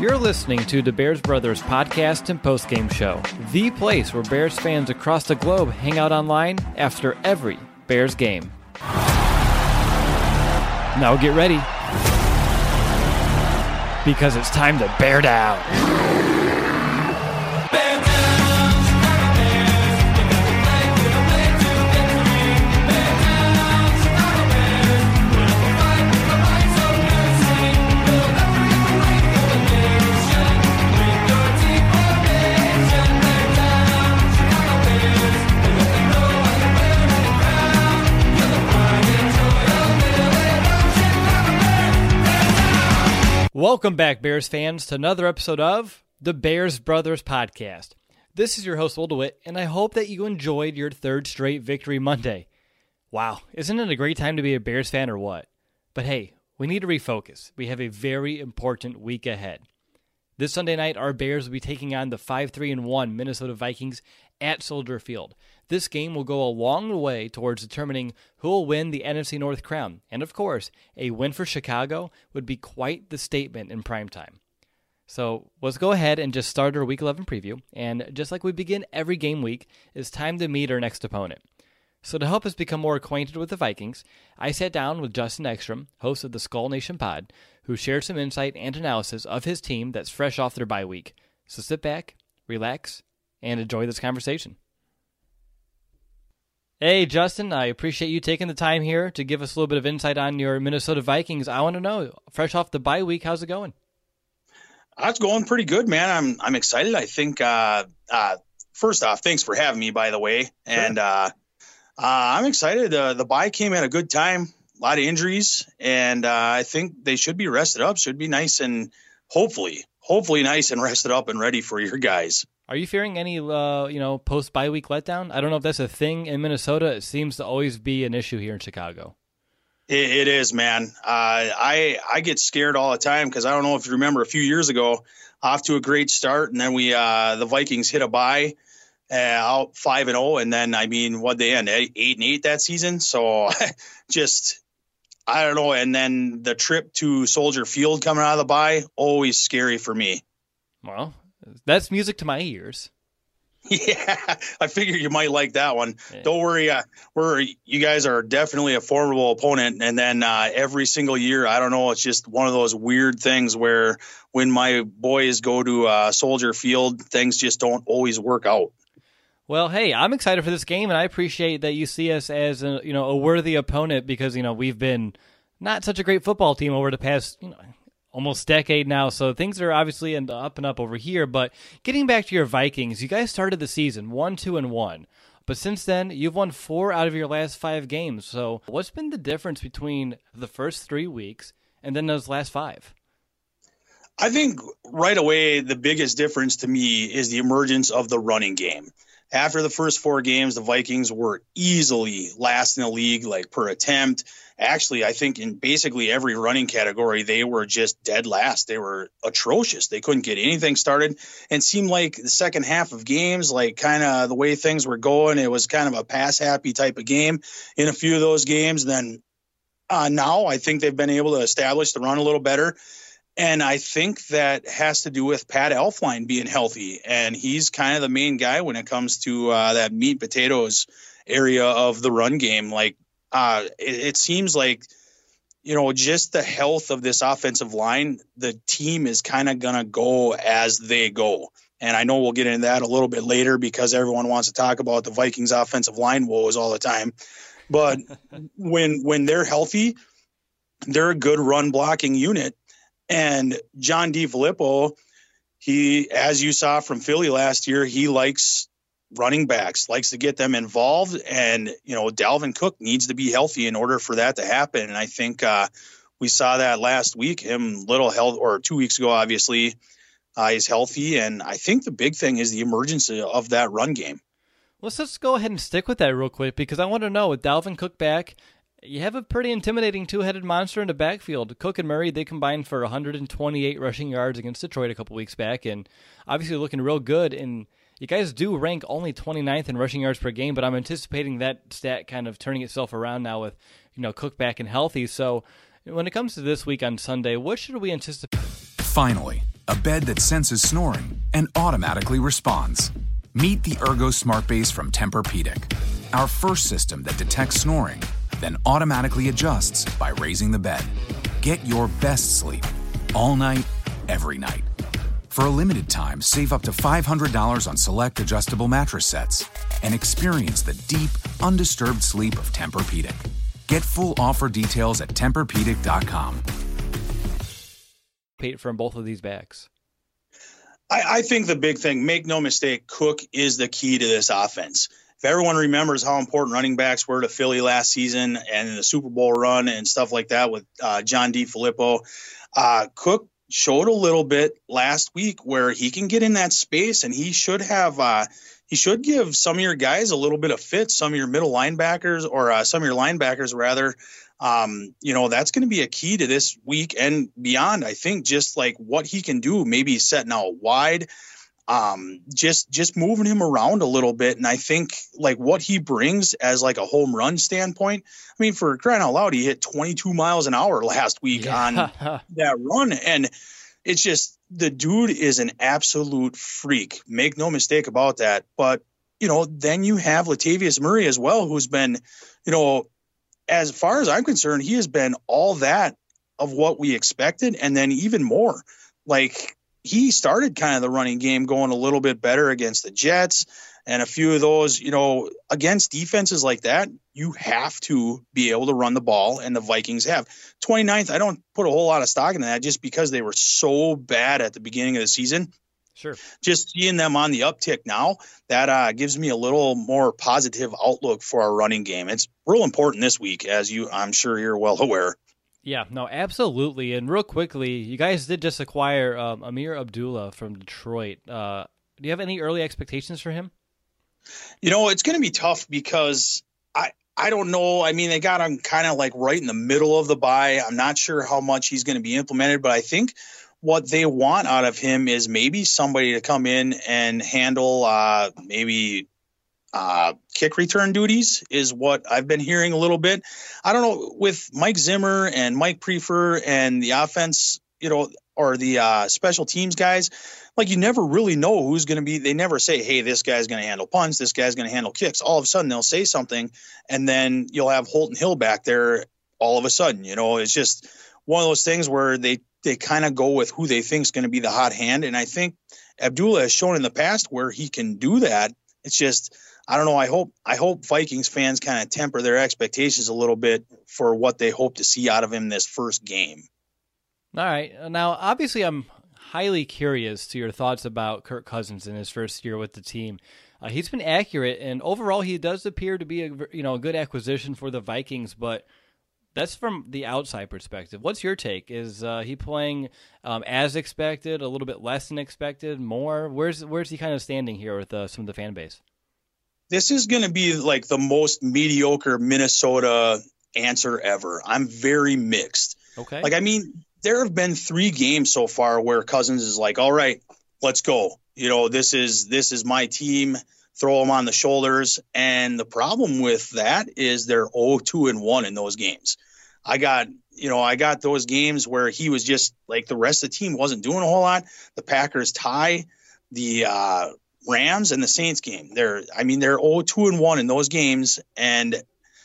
You're listening to the Bears Brothers podcast and postgame show, the place where Bears fans across the globe hang out online after every Bears game. Now get ready, because it's time to bear down. Welcome back, Bears fans, to another episode of the Bears Brothers podcast. This is your host, Will DeWitt, and I hope that you enjoyed your third straight Victory Monday. Wow, isn't it a great time to be a Bears fan or what? But hey, we need to refocus. We have a very important week ahead. This Sunday night, our Bears will be taking on the 5-3-1 Minnesota Vikings at Soldier Field. This game will go a long way towards determining who will win the NFC North crown. And of course, a win for Chicago would be quite the statement in primetime. So let's go ahead and just start our Week 11 preview. And just like we begin every game week, it's time to meet our next opponent. So to help us become more acquainted with the Vikings, I sat down with Justin Ekstrom, host of the Skull Nation pod, who shared some insight and analysis of his team that's fresh off their bye week. So sit back, relax, and enjoy this conversation. Hey, Justin, I appreciate you taking the time here to give us a little bit of insight on your Minnesota Vikings. I want to know, fresh off the bye week, how's it going? It's going pretty good, man. I'm excited. I think, first off, thanks for having me, by the way. Sure. And I'm excited. The bye came at a good time, a lot of injuries, and I think they should be rested up, should be nice and hopefully nice and rested up and ready for your guys. Are you fearing any, post-bye week letdown? I don't know if that's a thing in Minnesota. It seems to always be an issue here in Chicago. It is, man. I get scared all the time because I don't know if you remember a few years ago, off to a great start, and then the Vikings hit a bye out 5-0, and then what'd they end 8-8 that season? So I don't know. And then the trip to Soldier Field coming out of the bye, always scary for me. Well, that's music to my ears. Yeah, I figured you might like that one. Yeah. Don't worry. You guys are definitely a formidable opponent. And then every single year, I don't know, it's just one of those weird things where when my boys go to Soldier Field, things just don't always work out. Well, hey, I'm excited for this game, and I appreciate that you see us as a worthy opponent because we've been not such a great football team over the past almost decade now, so things are obviously up and up over here. But getting back to your Vikings, you guys started the season 1-2-1, but since then you've won 4 out of your last 5 games. So what's been the difference between the first 3 weeks and then those last 5? I think right away the biggest difference to me is the emergence of the running game. After the first 4 games, the Vikings were easily last in the league, like per attempt. Actually, I think in basically every running category, they were just dead last. They were atrocious. They couldn't get anything started, and seemed like the second half of games, like kind of the way things were going, it was kind of a pass-happy type of game in a few of those games. Then now I think they've been able to establish the run a little better. And I think that has to do with Pat Elflein being healthy. And he's kind of the main guy when it comes to that meat and potatoes area of the run game. Like it seems like, just the health of this offensive line, the team is kind of going to go as they go. And I know we'll get into that a little bit later because everyone wants to talk about the Vikings offensive line woes all the time. But when they're healthy, they're a good run blocking unit. And John DeFilippo, he, as you saw from Philly last year, he likes running backs, likes to get them involved. And, Dalvin Cook needs to be healthy in order for that to happen. And I think we saw that last week, him little health, or 2 weeks ago, obviously, he's healthy. And I think the big thing is the emergence of that run game. Let's just go ahead and stick with that real quick, because I want to know, with Dalvin Cook back, you have a pretty intimidating two-headed monster in the backfield. Cook and Murray, they combined for 128 rushing yards against Detroit a couple weeks back, and obviously looking real good. And you guys do rank only 29th in rushing yards per game, but I'm anticipating that stat kind of turning itself around now with, Cook back and healthy. So when it comes to this week on Sunday, what should we anticipate? Finally, a bed that senses snoring and automatically responds. Meet the Ergo Smart Base from Tempur-Pedic, our first system that detects snoring, then automatically adjusts by raising the bed. Get your best sleep all night, every night. For a limited time, save up to $500 on select adjustable mattress sets and experience the deep, undisturbed sleep of Tempur-Pedic. Get full offer details at TempurPedic.com. From both of these backs. I think the big thing, make no mistake, Cook is the key to this offense. If everyone remembers how important running backs were to Philly last season and in the Super Bowl run and stuff like that with John DeFilippo, Cook showed a little bit last week where he can get in that space, and he should have he should give some of your guys a little bit of fit, some of your middle linebackers or some of your linebackers rather. That's going to be a key to this week and beyond. I think just like what he can do, maybe setting out wide, just moving him around a little bit. And I think like what he brings as like a home run standpoint, I mean, for crying out loud, he hit 22 miles an hour last week on that run. And it's just, the dude is an absolute freak. Make no mistake about that. But, then you have Latavius Murray as well, who's been, as far as I'm concerned, he has been all that of what we expected. And then even more, like he started kind of the running game going a little bit better against the Jets and a few of those, against defenses like that, you have to be able to run the ball, and the Vikings have. 29th, I don't put a whole lot of stock in that just because they were so bad at the beginning of the season. Sure. Just seeing them on the uptick now, that gives me a little more positive outlook for our running game. It's real important this week, as I'm sure you're well aware. Yeah, no, absolutely. And real quickly, you guys did just acquire Amir Abdullah from Detroit. Do you have any early expectations for him? It's going to be tough because I don't know. I mean, they got him kind of like right in the middle of the bye. I'm not sure how much he's going to be implemented, but I think what they want out of him is maybe somebody to come in and handle kick return duties is what I've been hearing a little bit. I don't know, with Mike Zimmer and Mike Prefer and the offense, or the special teams guys, like you never really know who's going to be. They never say, hey, this guy's going to handle punts, this guy's going to handle kicks. All of a sudden they'll say something, and then you'll have Holton Hill back there all of a sudden. It's just one of those things where they kind of go with who they think is going to be the hot hand. And I think Abdullah has shown in the past where he can do that. It's just, I don't know. I hope Vikings fans kind of temper their expectations a little bit for what they hope to see out of him this first game. All right. Now, obviously, I'm highly curious to your thoughts about Kirk Cousins in his first year with the team. He's been accurate, and overall, he does appear to be a good acquisition for the Vikings. But that's from the outside perspective. What's your take? Is he playing as expected, a little bit less than expected, more? Where's he kind of standing here with some of the fan base? This is going to be like the most mediocre Minnesota answer ever. I'm very mixed. Okay. Like, I mean, there have been 3 games so far where Cousins is like, all right, let's go. This is my team. Throw them on the shoulders. And the problem with that is they're 0-2-1 in those games. I got those games where he was just like the rest of the team wasn't doing a whole lot. The Packers tie, the Rams and the Saints game. They're 0-2-1 in those games. And,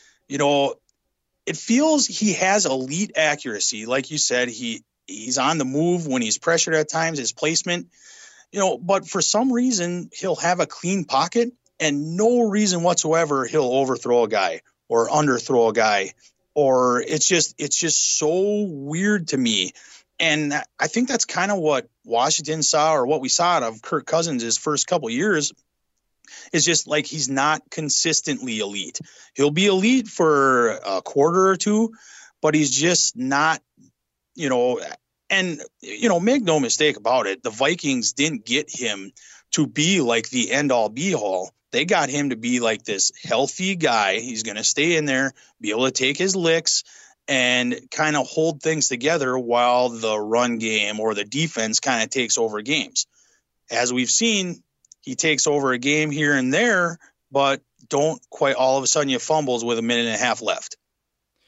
it feels he has elite accuracy. Like you said, he's on the move when he's pressured at times, his placement, but for some reason he'll have a clean pocket and no reason whatsoever he'll overthrow a guy or underthrow a guy, or it's just so weird to me. And I think that's kind of what Washington saw, or what we saw out of Kirk Cousins his first couple years. It's just like he's not consistently elite. He'll be elite for a quarter or two, but he's just not, and, make no mistake about it. The Vikings didn't get him to be like the end all be all. They got him to be like this healthy guy. He's going to stay in there, be able to take his licks and kind of hold things together while the run game or the defense kind of takes over games. As we've seen, he takes over a game here and there, but don't quite all of a sudden you fumbles with a minute and a half left.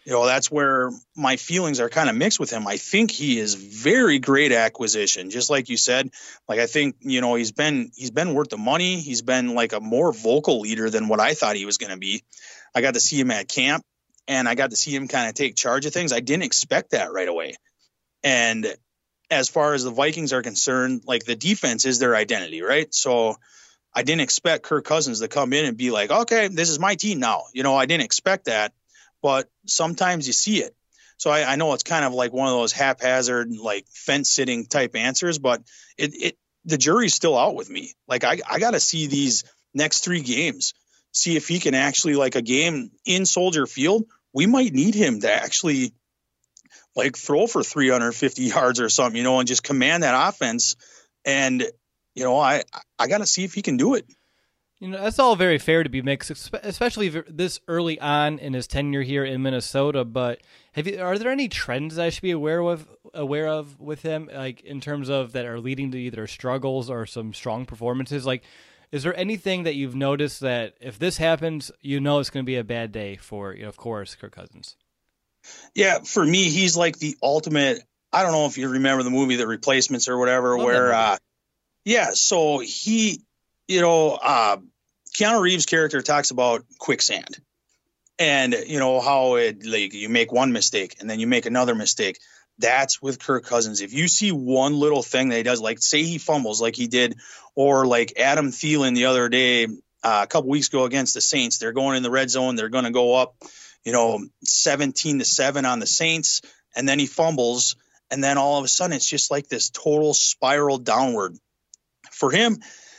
That's where my feelings are kind of mixed with him. I think he is very great acquisition, just like you said. Like, I think, he's been worth the money. He's been like a more vocal leader than what I thought he was going to be. I got to see him at camp, and I got to see him kind of take charge of things. I didn't expect that right away. And as far as the Vikings are concerned, like, the defense is their identity, right? So I didn't expect Kirk Cousins to come in and be like, okay, this is my team now. I didn't expect that. But sometimes you see it. So I know it's kind of like one of those haphazard, like, fence sitting type answers, but the jury's still out with me. Like, I got to see these next 3 games, see if he can actually, like, a game in Soldier Field, we might need him to actually, like, throw for 350 yards or something, and just command that offense. And, I got to see if he can do it. That's all very fair to be mixed, especially this early on in his tenure here in Minnesota. But are there any trends I should be aware of with him, like, in terms of that are leading to either struggles or some strong performances? Like, is there anything that you've noticed that if this happens, it's going to be a bad day for, of course, Kirk Cousins? Yeah, for me, he's like the ultimate. I don't know if you remember the movie The Replacements or whatever, so he, Keanu Reeves' character talks about quicksand, and how it, like, you make one mistake and then you make another mistake. That's with Kirk Cousins. If you see one little thing that he does, like, say he fumbles like he did, or like Adam Thielen the other day, a couple weeks ago against the Saints, they're going in the red zone. They're going to go up, 17-7 on the Saints, and then he fumbles, and then all of a sudden it's just like this total spiral downward for him.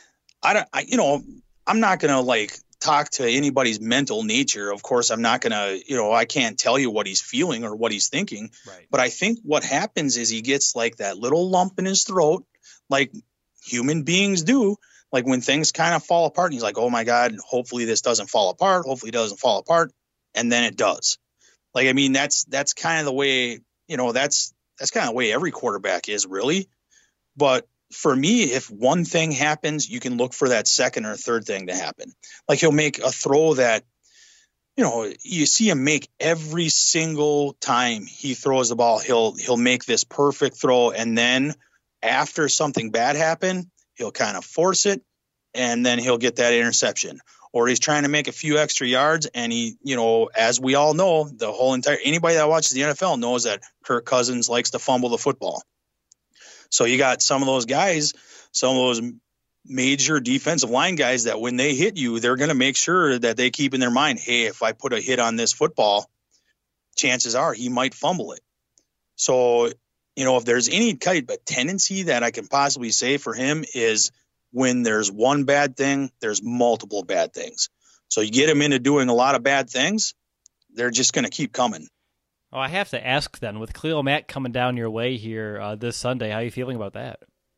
I'm not going to, like, talk to anybody's mental nature. Of course, I'm not going to, I can't tell you what he's feeling or what he's thinking. Right. But I think what happens is he gets, like, that little lump in his throat, like human beings do, like when things kind of fall apart. And he's like, oh, my God, hopefully this doesn't fall apart. Hopefully it doesn't fall apart. And then it does. Like, I mean, that's kind of the way, that's kind of the way every quarterback is, really. But for me, if one thing happens, you can look for that second or third thing to happen. Like, he'll make a throw that, you see him make every single time he throws the ball. He'll make this perfect throw, and then after something bad happened, he'll kind of force it, and then he'll get that interception. Or he's trying to make a few extra yards, and he, as we all know, anybody that watches the NFL knows that Kirk Cousins likes to fumble the football. So you got some of those guys, some of those major defensive line guys that when they hit you, they're going to make sure that they keep in their mind, hey, if I put a hit on this football, chances are he might fumble it. So, if there's any type of tendency that I can possibly say for him is when there's one bad thing, there's multiple bad things. So you get him into doing a lot of bad things, they're just going to keep coming. Oh, I have to ask then, with Khalil Mack coming down your way here this Sunday, how are you feeling about that?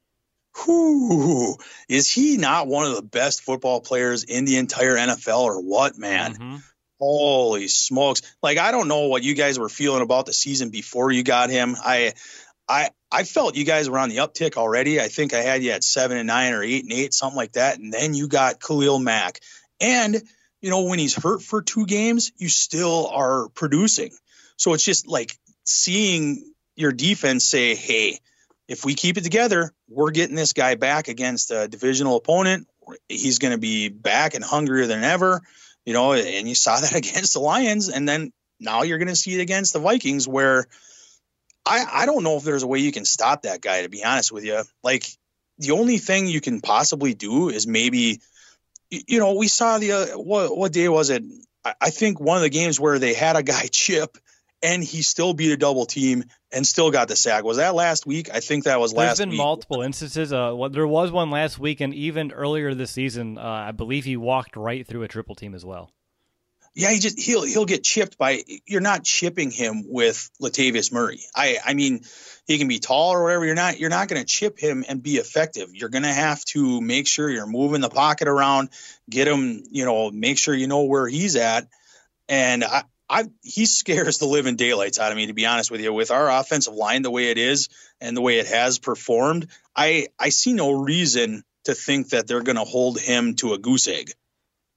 Is he not one of the best football players in the entire NFL or what, man? Mm-hmm. Holy smokes. Like, I don't know what you guys were feeling about the season before you got him. I felt you guys were on the uptick already. I think I had you at 7-9 or 8-8, something like that. And then you got Khalil Mack. And, when he's hurt for 2 games, you still are producing. So it's just like seeing your defense say, hey, if we keep it together, we're getting this guy back against a divisional opponent. He's going to be back and hungrier than ever, and you saw that against the Lions. And then now you're going to see it against the Vikings, where I don't know if there's a way you can stop that guy, to be honest with you. Like, the only thing you can possibly do is maybe, we saw what day was it? I think one of the games where they had a guy chip and he still beat a double team and still got the sack. Was that last week? I think that was last week. There's been multiple instances. There was one last week, and even earlier this season, I believe he walked right through a triple team as well. Yeah, he'll get chipped by. You're not chipping him with Latavius Murray. I mean, he can be tall or whatever. You're not going to chip him and be effective. You're going to have to make sure you're moving the pocket around, get him, make sure you know where he's at. And he scares the living daylights out of me, to be honest with you. With our offensive line the way it is and the way it has performed, I see no reason to think that they're going to hold him to a goose egg.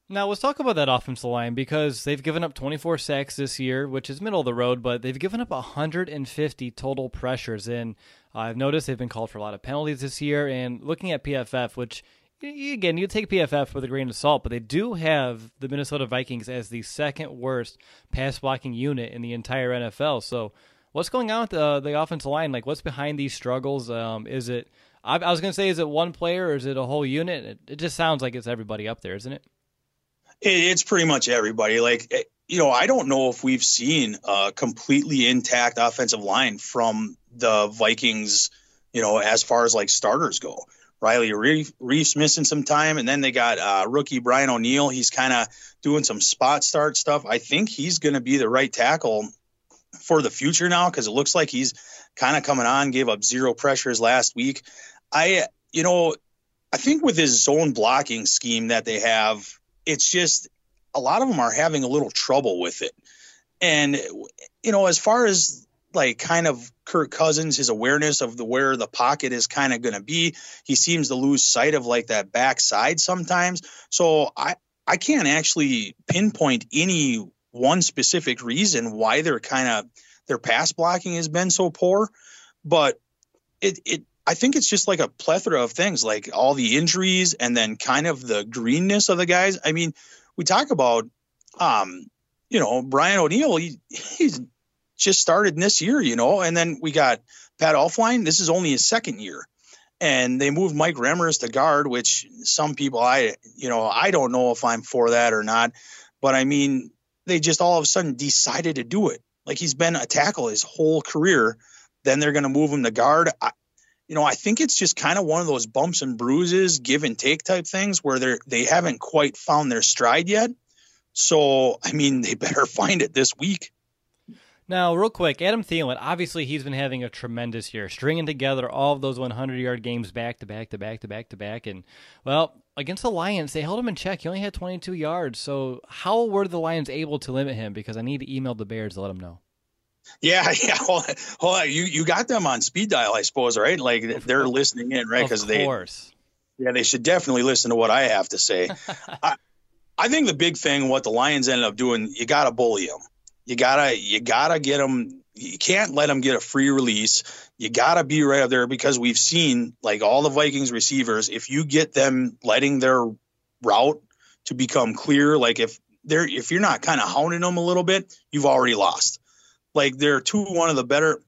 Now, let's talk about that offensive line because they've given up 24 sacks this year, which is middle of the road, but they've given up 150 total pressures. And I've noticed they've been called for a lot of penalties this year. And looking at PFF, which, again, you take PFF with a grain of salt, but they do have the Minnesota Vikings as the second worst pass blocking unit in the entire NFL. So what's going on with the offensive line? Like, what's behind these struggles? Is it, I was going to say, is it one player or is it a whole unit? It just sounds like it's everybody up there, isn't it? It's pretty much everybody. Like, I don't know if we've seen a completely intact offensive line from the Vikings, as far as like starters go. Riley Reif's missing some time, and then they got rookie Brian O'Neill. He's kind of doing some spot start stuff. I think he's going to be the right tackle for the future now because it looks like he's kind of coming on, gave up 0 pressures last week. I think with his zone blocking scheme that they have, it's just a lot of them are having a little trouble with it. And, as far as like kind of Kirk Cousins, his awareness of where the pocket is kind of going to be, he seems to lose sight of like that backside sometimes. So I can't actually pinpoint any one specific reason why their pass blocking has been so poor, but I think it's just like a plethora of things, like all the injuries and then kind of the greenness of the guys. I mean, we talk about, Brian O'Neill, he's just started this year, and then we got Pat Elflein. This is only his second year. And they moved Mike Remmers to guard, which some people, I don't know if I'm for that or not, but I mean, they just all of a sudden decided to do it. Like he's been a tackle his whole career. Then they're going to move him to guard. I think it's just kind of one of those bumps and bruises, give and take type things where they haven't quite found their stride yet. So, I mean, they better find it this week. Now, real quick, Adam Thielen, obviously he's been having a tremendous year, stringing together all of those 100-yard games back to back to back to back to back. And, well, against the Lions, they held him in check. He only had 22 yards. So how were the Lions able to limit him? Because I need to email the Bears to let them know. Yeah. Hold on. You got them on speed dial, I suppose, right? Like they're listening in, right? Because they should definitely listen to what I have to say. I think the big thing, what the Lions ended up doing, you got to bully them. You gotta get them. You can't let them get a free release. You gotta be right up there because we've seen like all the Vikings receivers. If you get them letting their route to become clear, like if you're not kind of hounding them a little bit, you've already lost. Like they're two of the better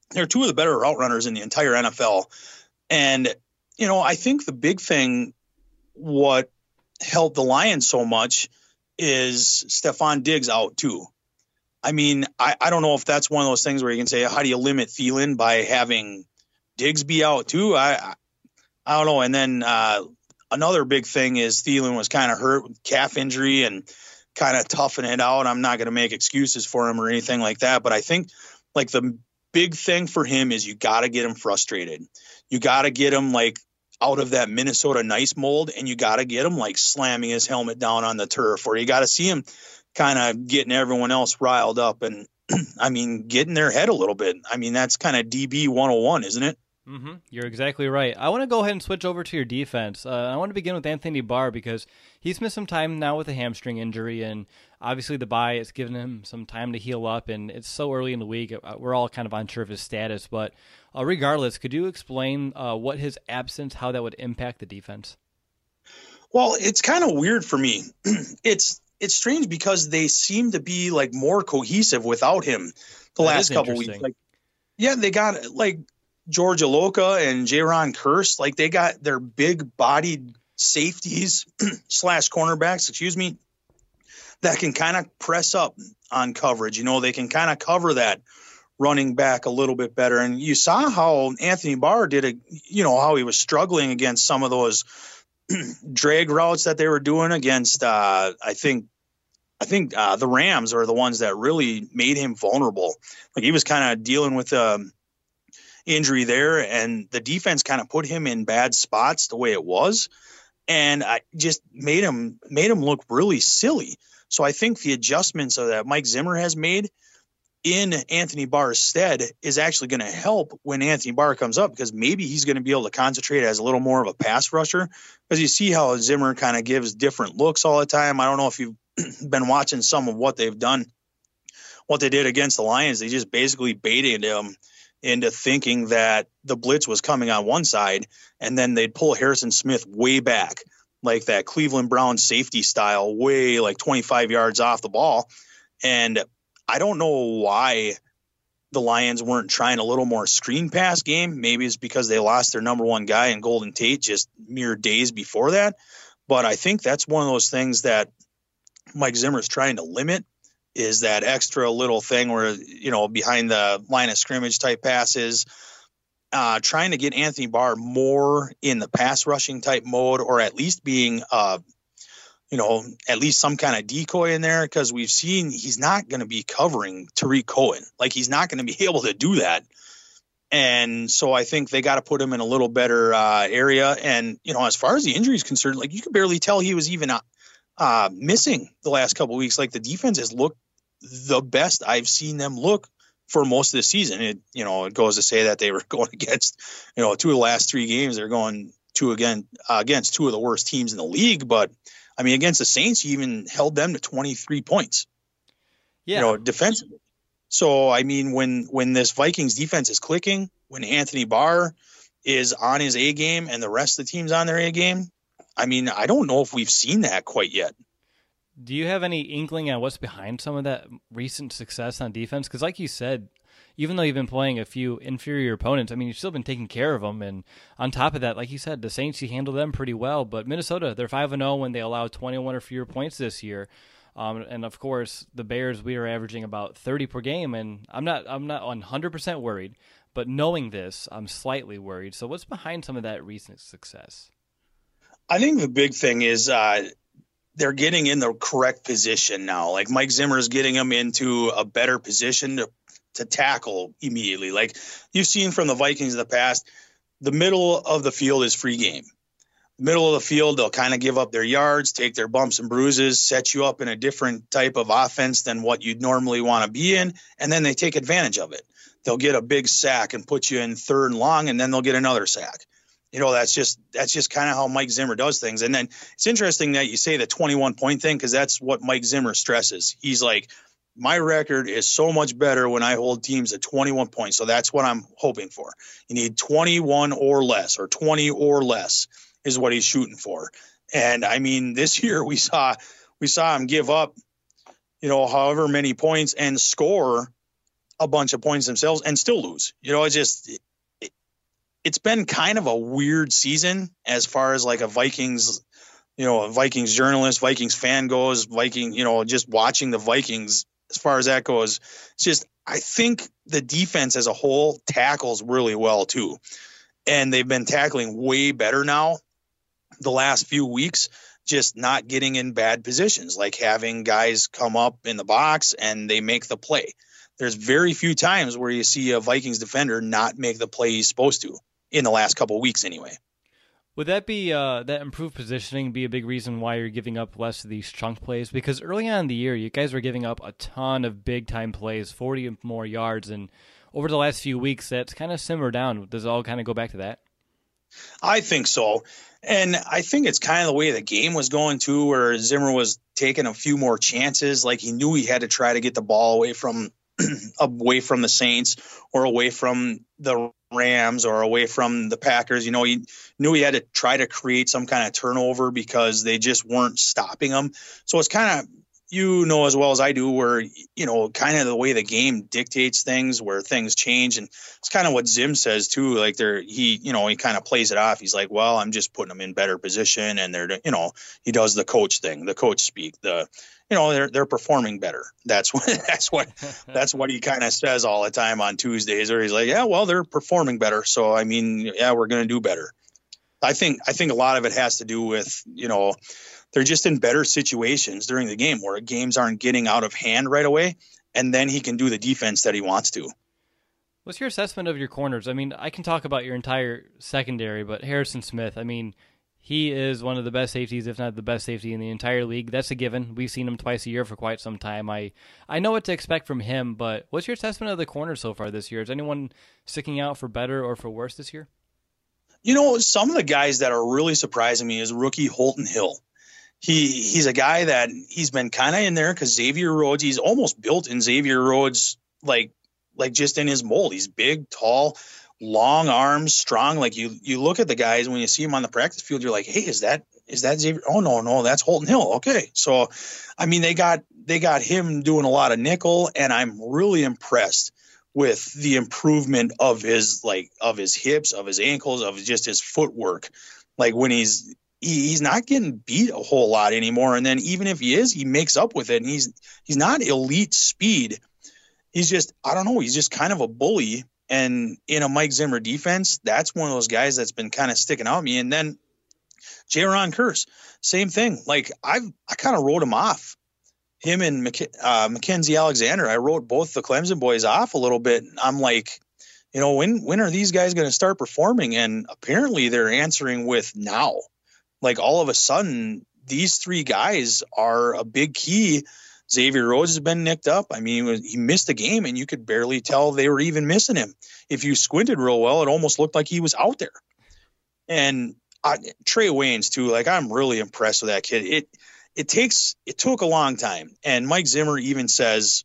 route runners in the entire NFL. And I think the big thing, what helped the Lions so much, is Stephon Diggs out too. I mean, I don't know if that's one of those things where you can say, how do you limit Thielen by having Diggs be out too? I don't know. And then another big thing is Thielen was kind of hurt with calf injury and kind of toughing it out. I'm not going to make excuses for him or anything like that. But I think like the big thing for him is you got to get him frustrated. You got to get him like out of that Minnesota nice mold, and you got to get him like slamming his helmet down on the turf, or you got to see him kind of getting everyone else riled up and, I mean, getting their head a little bit. I mean, that's kind of DB 101, isn't it? Mm-hmm. You're exactly right. I want to go ahead and switch over to your defense. I want to begin with Anthony Barr because he's missed some time now with a hamstring injury, and obviously the bye has given him some time to heal up, and it's so early in the week. We're all kind of unsure of his status, but regardless, could you explain what his absence, how that would impact the defense? Well, it's kind of weird for me. It's strange because they seem to be like more cohesive without him the last couple weeks. Like, yeah, they got like George Iloka and Jaron Kearse. Like they got their big bodied safeties / cornerbacks, that can kind of press up on coverage. They can kind of cover that running back a little bit better. And you saw how Anthony Barr did how he was struggling against some of those drag routes that they were doing against, I think the Rams are the ones that really made him vulnerable. Like he was kind of dealing with injury there, and the defense kind of put him in bad spots the way it was, and I just made him look really silly. So I think the adjustments that Mike Zimmer has made, in Anthony Barr's stead is actually going to help when Anthony Barr comes up, because maybe he's going to be able to concentrate as a little more of a pass rusher, because you see how Zimmer kind of gives different looks all the time. I don't know if you've been watching some of what they've done, what they did against the Lions. They just basically baited him into thinking that the blitz was coming on one side, and then they'd pull Harrison Smith way back, like that Cleveland Browns safety style, way like 25 yards off the ball. And I don't know why the Lions weren't trying a little more screen pass game. Maybe it's because they lost their number one guy in Golden Tate just mere days before that. But I think that's one of those things that Mike Zimmer's trying to limit, is that extra little thing where, behind the line of scrimmage type passes, trying to get Anthony Barr more in the pass rushing type mode, or at least being at least some kind of decoy in there, because we've seen he's not going to be covering Tariq Cohen. Like, he's not going to be able to do that. And so I think they got to put him in a little better area. And, as far as the injury is concerned, like, you could barely tell he was even missing the last couple of weeks. Like, the defense has looked the best I've seen them look for most of the season. It goes to say that they were going against, 2 of the last 3 games. They're going against 2 of the worst teams in the league. But I mean, against the Saints, you even held them to 23 points, defensively. So, I mean, when this Vikings defense is clicking, when Anthony Barr is on his A game and the rest of the team's on their A game, I mean, I don't know if we've seen that quite yet. Do you have any inkling on what's behind some of that recent success on defense? Because like you said, even though you've been playing a few inferior opponents, I mean, you've still been taking care of them. And on top of that, like you said, the Saints, you handled them pretty well. But Minnesota, they're 5-0 when they allow 21 or fewer points this year. And of course, the Bears, we are averaging about 30 per game. And I'm not 100% worried, but knowing this, I'm slightly worried. So what's behind some of that recent success? I think the big thing is they're getting in the correct position now. Like, Mike Zimmer is getting them into a better position to tackle immediately. Like, you've seen from the Vikings in the past, the middle of the field is free game. The middle of the field, they'll kind of give up their yards, take their bumps and bruises, set you up in a different type of offense than what you'd normally want to be in, and then they take advantage of it. They'll get a big sack and put you in 3rd and long, and then they'll get another sack. That's just kind of how Mike Zimmer does things. And then it's interesting that you say the 21-point thing, because that's what Mike Zimmer stresses. He's like, my record is so much better when I hold teams at 21 points. So that's what I'm hoping for. You need 21 or less, or 20 or less is what he's shooting for. And I mean, this year we saw him give up, however many points and score a bunch of points themselves and still lose. It's been kind of a weird season as far as like a Vikings, a Vikings journalist, Vikings fan goes, just watching the Vikings as far as that goes. It's just, I think the defense as a whole tackles really well too. And they've been tackling way better now the last few weeks, just not getting in bad positions, like having guys come up in the box and they make the play. There's very few times where you see a Vikings defender not make the play he's supposed to in the last couple of weeks anyway. Would that be that improved positioning be a big reason why you're giving up less of these chunk plays? Because early on in the year, you guys were giving up a ton of big-time plays, 40 or more yards, and over the last few weeks, that's kind of simmered down. Does it all kind of go back to that? I think so. And I think it's kind of the way the game was going too, where Zimmer was taking a few more chances. Like, he knew he had to try to get the ball away from the Saints, or away from the Rams, or away from the Packers. He knew he had to try to create some kind of turnover because they just weren't stopping him. So it's kind of, as well as I do, where, kind of the way the game dictates things, where things change. And it's kind of what Zim says too. Like, he kind of plays it off. He's like, well, I'm just putting them in better position. And he does the coach thing, the coach speak, they're performing better. That's what he kind of says all the time on Tuesdays, where he's like, yeah, well, they're performing better. So, I mean, yeah, we're going to do better. I think a lot of it has to do with, they're just in better situations during the game, where games aren't getting out of hand right away, and then he can do the defense that he wants to. What's your assessment of your corners? I mean, I can talk about your entire secondary, but Harrison Smith, I mean, He is one of the best safeties, if not the best safety in the entire league. That's a given. We've seen him twice a year for quite some time. I know what to expect from him, but what's your assessment of the corner so far this year? Is anyone sticking out for better or for worse this year? Some of the guys that are really surprising me is rookie Holton Hill. He's a guy that he's been kind of in there because Xavier Rhodes, he's almost built in Xavier Rhodes, like just in his mold. He's big, tall, long arms, strong. Like you look at the guys when you see him on the practice field, you're like, hey, is that Xavier? Oh no, that's Holton Hill. Okay. So, I mean, they got him doing a lot of nickel, and I'm really impressed with the improvement of his hips, of his ankles, of just his footwork. Like when he's not getting beat a whole lot anymore. And then even if he is, he makes up with it. And he's not elite speed. He's just, I don't know. He's just kind of a bully. And in a Mike Zimmer defense, that's one of those guys that's been kind of sticking out at me. And then Jaron Kearse, same thing. Like I kind of wrote him off. Him and Mackenzie Alexander, I wrote both the Clemson boys off a little bit. I'm like, when are these guys going to start performing? And apparently they're answering with now. Like all of a sudden, these three guys are a big key. Xavier Rhodes has been nicked up. I mean, he missed a game, and you could barely tell they were even missing him. If you squinted real well, it almost looked like he was out there. And Trey Waynes, too, like I'm really impressed with that kid. It took a long time. And Mike Zimmer even says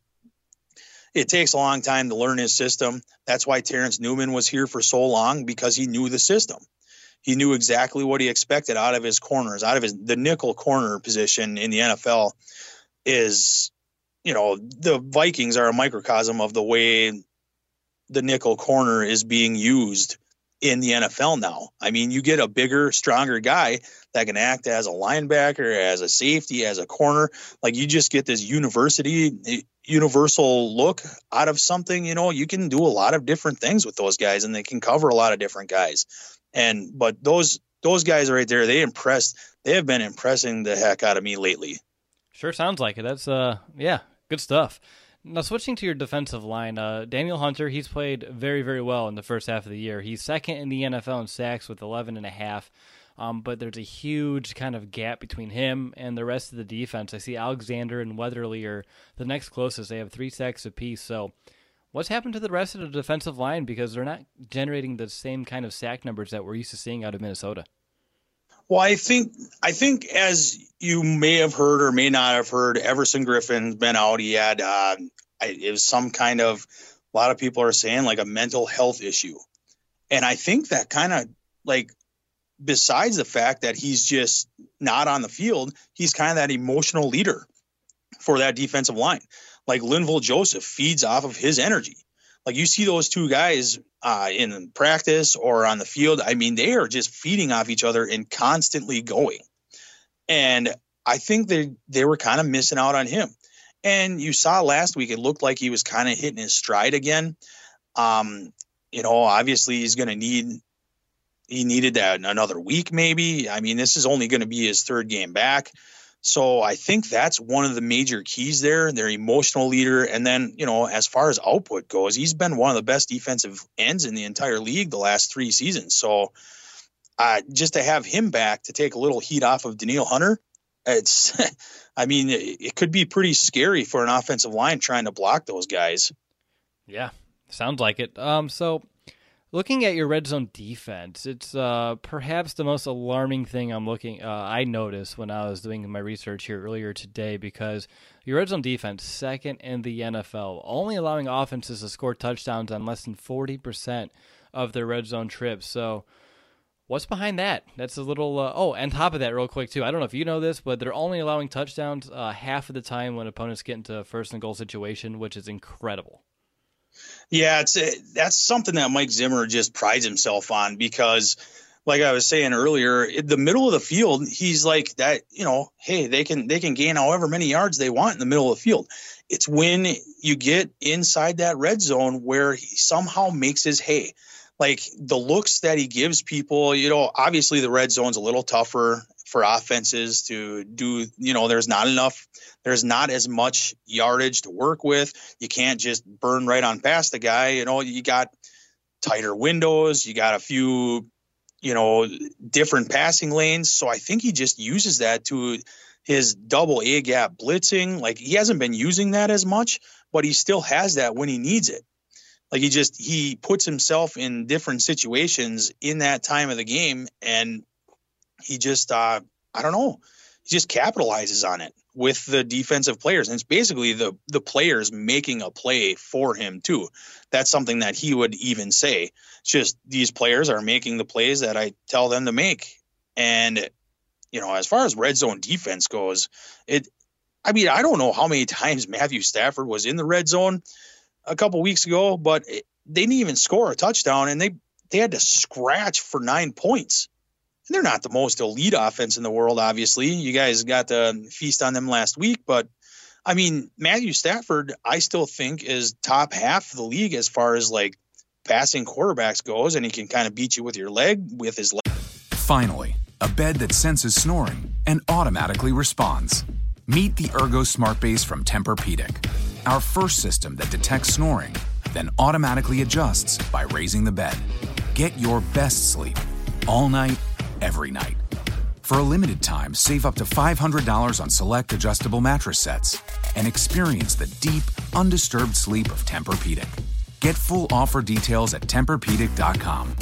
it takes a long time to learn his system. That's why Terrence Newman was here for so long, because he knew the system. He knew exactly what he expected out of his corners, the nickel corner position in the NFL is, the Vikings are a microcosm of the way the nickel corner is being used in the NFL now. I mean, you get a bigger, stronger guy that can act as a linebacker, as a safety, as a corner. Like you just get this universal look out of something. You can do a lot of different things with those guys, and they can cover a lot of different guys. But those guys right there, they have been impressing the heck out of me lately. Sure sounds like it. That's good stuff. Now, switching to your defensive line, Daniel Hunter, he's played very, very well in the first half of the year. He's second in the NFL in sacks with 11.5, but there's a huge kind of gap between him and the rest of the defense. I see Alexander and Weatherly are the next closest. They have 3 sacks apiece. So what's happened to the rest of the defensive line, because they're not generating the same kind of sack numbers that we're used to seeing out of Minnesota? Well, I think as you may have heard or may not have heard, Everson Griffin's been out. He had it was some kind of, a lot of people are saying like a mental health issue. And I think that kind of like, besides the fact that he's just not on the field, he's kind of that emotional leader for that defensive line. Like Linval Joseph feeds off of his energy. Like you see those two guys in practice or on the field. I mean, they are just feeding off each other and constantly going. And I think they were kind of missing out on him. And you saw last week, it looked like he was kind of hitting his stride again. Obviously he's going to he needed that another week, maybe. I mean, this is only going to be his third game back. So I think that's one of the major keys there, their emotional leader. And then, as far as output goes, he's been one of the best defensive ends in the entire league the last 3 seasons. So just to have him back to take a little heat off of Danielle Hunter, it could be pretty scary for an offensive line trying to block those guys. Yeah, sounds like it. So looking at your red zone defense, it's perhaps the most alarming thing I noticed when I was doing my research here earlier today, because your red zone defense, second in the NFL, only allowing offenses to score touchdowns on less than 40% of their red zone trips. So what's behind that? That's a little... on top of that, real quick, too, I don't know if you know this, but they're only allowing touchdowns half of the time when opponents get into a first and goal situation, which is incredible. Yeah, that's something that Mike Zimmer just prides himself on, because like I was saying earlier, in the middle of the field, he's like that, hey, they can gain however many yards they want in the middle of the field. It's when you get inside that red zone where he somehow makes his hay. Like the looks that he gives people, obviously the red zone's a little tougher for offenses to do. There's not as much yardage to work with. You can't just burn right on past the guy. You got tighter windows. You got a few, different passing lanes. So I think he just uses that to his double A gap blitzing. Like, he hasn't been using that as much, but he still has that when he needs it. Like, he puts himself in different situations in that time of the game, and he just, I don't know, he just capitalizes on it with the defensive players. And it's basically the players making a play for him too. That's something that he would even say. It's just, these players are making the plays that I tell them to make. And, as far as red zone defense goes, I don't know how many times Matthew Stafford was in the red zone a couple weeks ago, but they didn't even score a touchdown, and they had to scratch for 9 points. And they're not the most elite offense in the world, obviously. You guys got to feast on them last week, but Matthew Stafford, I still think, is top half of the league as far as like passing quarterbacks goes, and he can kind of beat you with your leg, with his leg. Finally, a bed that senses snoring and automatically responds. Meet the Ergo Smart Base from Tempur-Pedic, our first system that detects snoring, then automatically adjusts by raising the bed. Get your best sleep all night, every night. For a limited time, save up to $500 on select adjustable mattress sets and experience the deep, undisturbed sleep of Tempur-Pedic. Get full offer details at TempurPedic.com.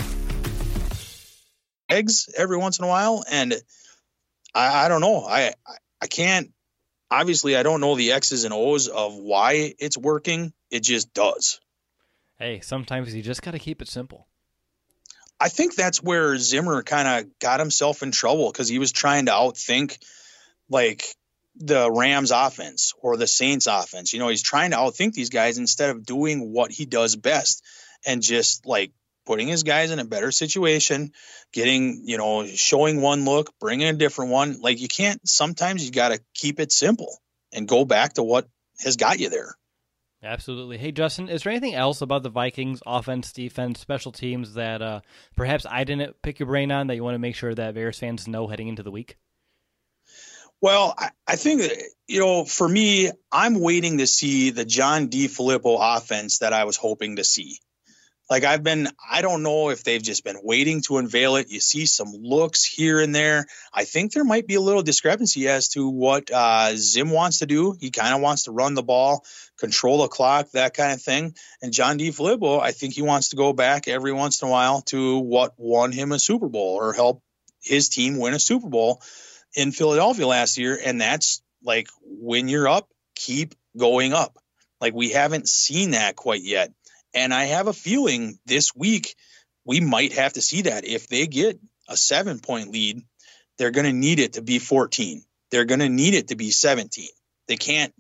Eggs every once in a while, and I don't know. I can't. Obviously, I don't know the X's and O's of why it's working. It just does. Hey, sometimes you just got to keep it simple. I think that's where Zimmer kind of got himself in trouble, because he was trying to outthink like the Rams offense or the Saints offense. He's trying to outthink these guys instead of doing what he does best and just like putting his guys in a better situation, getting, showing one look, bringing a different one. Like, you can't, sometimes you got to keep it simple and go back to what has got you there. Absolutely. Hey, Justin, is there anything else about the Vikings offense, defense, special teams that perhaps I didn't pick your brain on that you want to make sure that Bears fans know heading into the week? Well, I think that, for me, I'm waiting to see the John DeFilippo offense that I was hoping to see. Like, I don't know if they've just been waiting to unveil it. You see some looks here and there. I think there might be a little discrepancy as to what Zim wants to do. He kind of wants to run the ball, control the clock, that kind of thing. And John DeFilippo, I think he wants to go back every once in a while to what won him a Super Bowl or help his team win a Super Bowl in Philadelphia last year. And that's like, when you're up, keep going up. Like, we haven't seen that quite yet. And I have a feeling this week we might have to see that. If they get a 7-point lead, they're going to need it to be 14. They're going to need it to be 17. They can't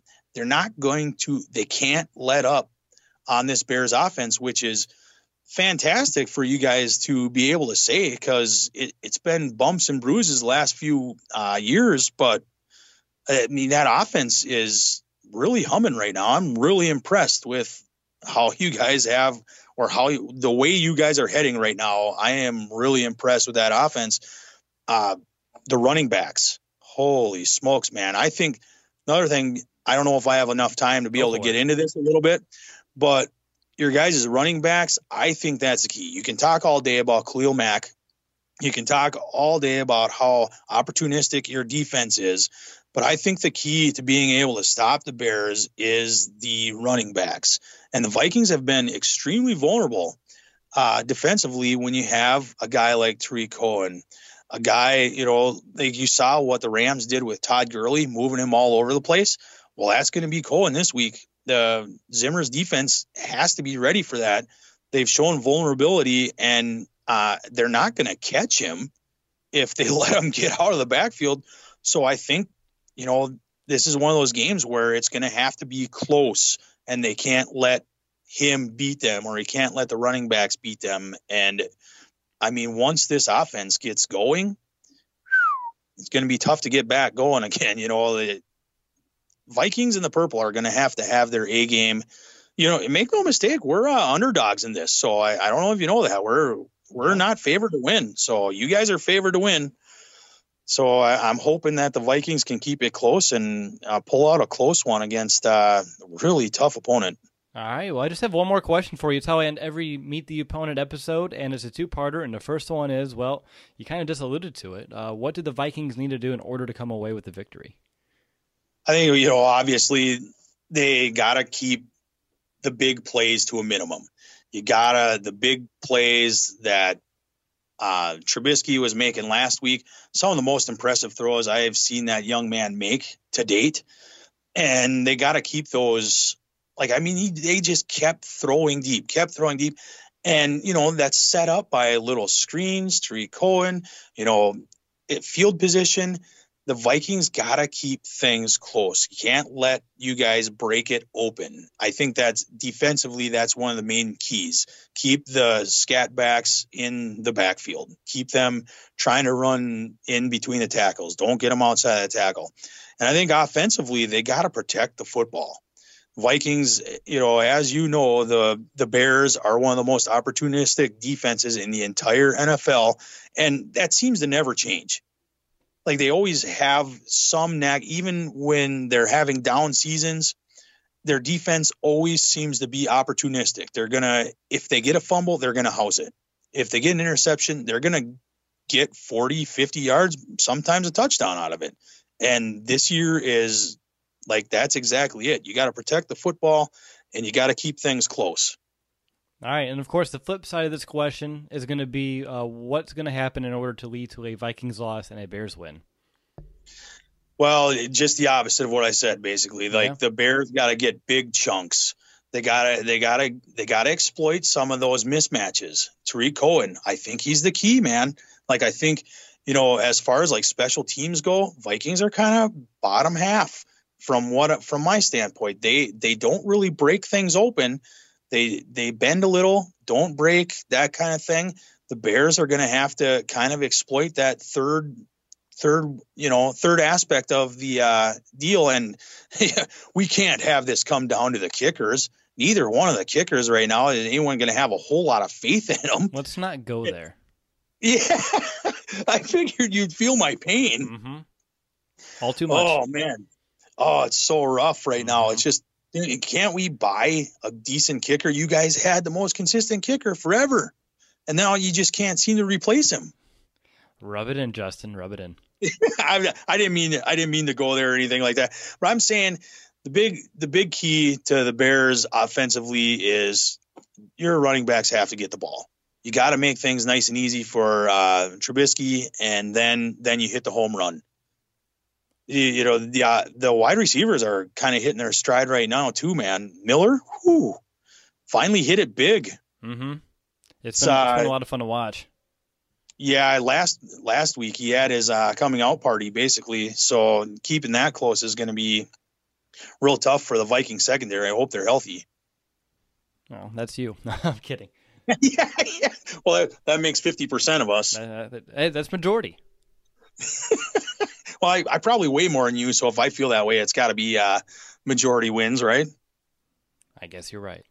let up on this Bears offense, which is fantastic for you guys to be able to say, because it's been bumps and bruises the last few years. But that offense is really humming right now. I'm really impressed with how you guys have, or the way you guys are heading right now. I am really impressed with that offense. The running backs, holy smokes, man. I think another thing, I don't know if I have enough time to be able to get into this a little bit, but your guys' running backs, I think that's the key. You can talk all day about Khalil Mack. You can talk all day about how opportunistic your defense is, but I think the key to being able to stop the Bears is the running backs. And the Vikings have been extremely vulnerable defensively when you have a guy like Tariq Cohen, a guy, like you saw what the Rams did with Todd Gurley, moving him all over the place. Well, that's going to be Cohen this week. The Zimmer's defense has to be ready for that. They've shown vulnerability, and they're not going to catch him if they let him get out of the backfield. So I think, this is one of those games where it's going to have to be close, and they can't let him beat them, or he can't let the running backs beat them. And once this offense gets going, it's going to be tough to get back going again. The Vikings and the purple are going to have their A game. Make no mistake, we're underdogs in this. So I don't know if you know that we're not favored to win. So you guys are favored to win. So I'm hoping that the Vikings can keep it close and pull out a close one against a really tough opponent. All right, well, I just have one more question for you. It's how I end every Meet the Opponent episode, and it's a two-parter, and the first one is, well, you kind of just alluded to it. What did the Vikings need to do in order to come away with the victory? I think, obviously they got to keep the big plays to a minimum. The big plays that Trubisky was making last week, some of the most impressive throws I have seen that young man make to date. And they got to keep those. They just kept throwing deep. And, that's set up by little screens, Tariq Cohen, field position. The Vikings got to keep things close. You can't let you guys break it open. I think that's defensively, that's one of the main keys. Keep the scat backs in the backfield. Keep them trying to run in between the tackles. Don't get them outside of the tackle. And I think offensively, they got to protect the football. Vikings, as you know, the Bears are one of the most opportunistic defenses in the entire NFL, and that seems to never change. Like, they always have some knack, even when they're having down seasons, their defense always seems to be opportunistic. If they get a fumble, they're going to house it. If they get an interception, they're going to get 40, 50 yards, sometimes a touchdown out of it. And this year is that's exactly it. You got to protect the football, and you got to keep things close. All right, and of course, the flip side of this question is going to be what's going to happen in order to lead to a Vikings loss and a Bears win? Well, just the opposite of what I said, basically. The Bears got to get big chunks. They got to exploit some of those mismatches. Tariq Cohen, I think he's the key, man. I think, as far as special teams go, Vikings are kind of bottom half from my standpoint. They don't really break things open. They bend a little, don't break, that kind of thing. The Bears are going to have to kind of exploit that third aspect of the deal. And we can't have this come down to the kickers. Neither one of the kickers right now is anyone going to have a whole lot of faith in them. Let's not go there. Yeah, I figured you'd feel my pain. Mm-hmm. All too much. Oh, man. Oh, it's so rough right now. It's just, can't we buy a decent kicker? You guys had the most consistent kicker forever, and now you just can't seem to replace him. Rub it in, Justin. Rub it in. I didn't mean to go there or anything like that. But I'm saying the big key to the Bears offensively is your running backs have to get the ball. You got to make things nice and easy for Trubisky, and then you hit the home run. The wide receivers are kind of hitting their stride right now too, man. Miller, finally hit it big. Mm-hmm. It's been a lot of fun to watch. Yeah, last week he had his coming out party basically, so keeping that close is going to be real tough for the Viking secondary. I hope they're healthy. Oh, that's you. I'm kidding. yeah. Well, that makes 50% of us. That's majority. Well, I probably weigh more than you, so if I feel that way, it's got to be majority wins, right? I guess you're right.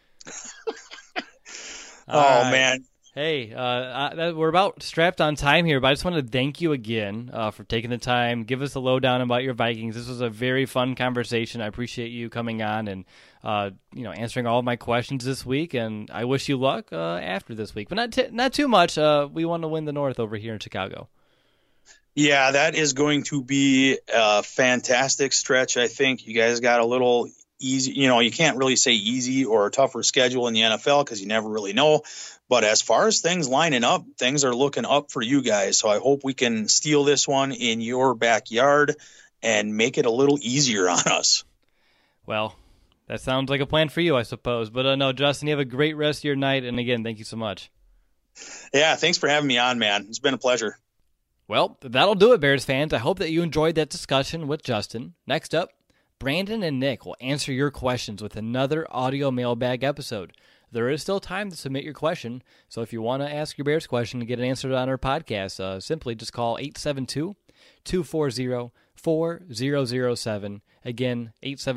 Oh, man. Hey, we're about strapped on time here, but I just want to thank you again for taking the time. Give us a lowdown about your Vikings. This was a very fun conversation. I appreciate you coming on and answering all of my questions this week, and I wish you luck after this week, but not too much. We want to win the North over here in Chicago. Yeah, that is going to be a fantastic stretch. I think you guys got a little easy. You can't really say easy or a tougher schedule in the NFL because you never really know. But as far as things lining up, things are looking up for you guys. So I hope we can steal this one in your backyard and make it a little easier on us. Well, that sounds like a plan for you, I suppose. But no, Justin, you have a great rest of your night. And again, thank you so much. Yeah, thanks for having me on, man. It's been a pleasure. Well, that'll do it, Bears fans. I hope that you enjoyed that discussion with Justin. Next up, Brandon and Nick will answer your questions with another audio mailbag episode. There is still time to submit your question, so if you want to ask your Bears question and get it answered on our podcast, simply just call 872-240-4007. Again,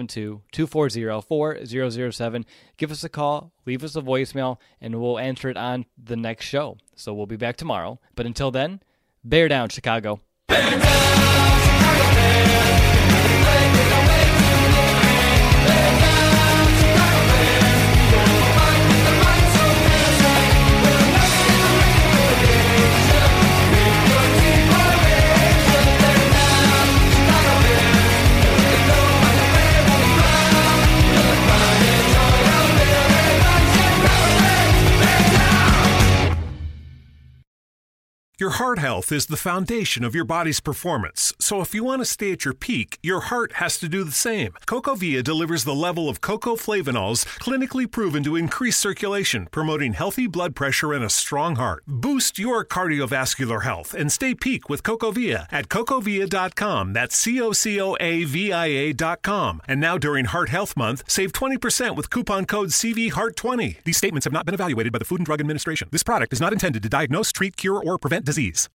872-240-4007. Give us a call, leave us a voicemail, and we'll answer it on the next show. So we'll be back tomorrow. But until then, bear down, Chicago. Bear down, Chicago Bears. Bear down, Chicago Bears. Your heart health is the foundation of your body's performance, so if you want to stay at your peak, your heart has to do the same. CocoVia delivers the level of cocoflavanols clinically proven to increase circulation, promoting healthy blood pressure and a strong heart. Boost your cardiovascular health and stay peak with CocoVia at cocovia.com. That's CocoVia.com. And now during Heart Health Month, save 20% with coupon code CVHEART20. These statements have not been evaluated by the Food and Drug Administration. This product is not intended to diagnose, treat, cure, or prevent disease.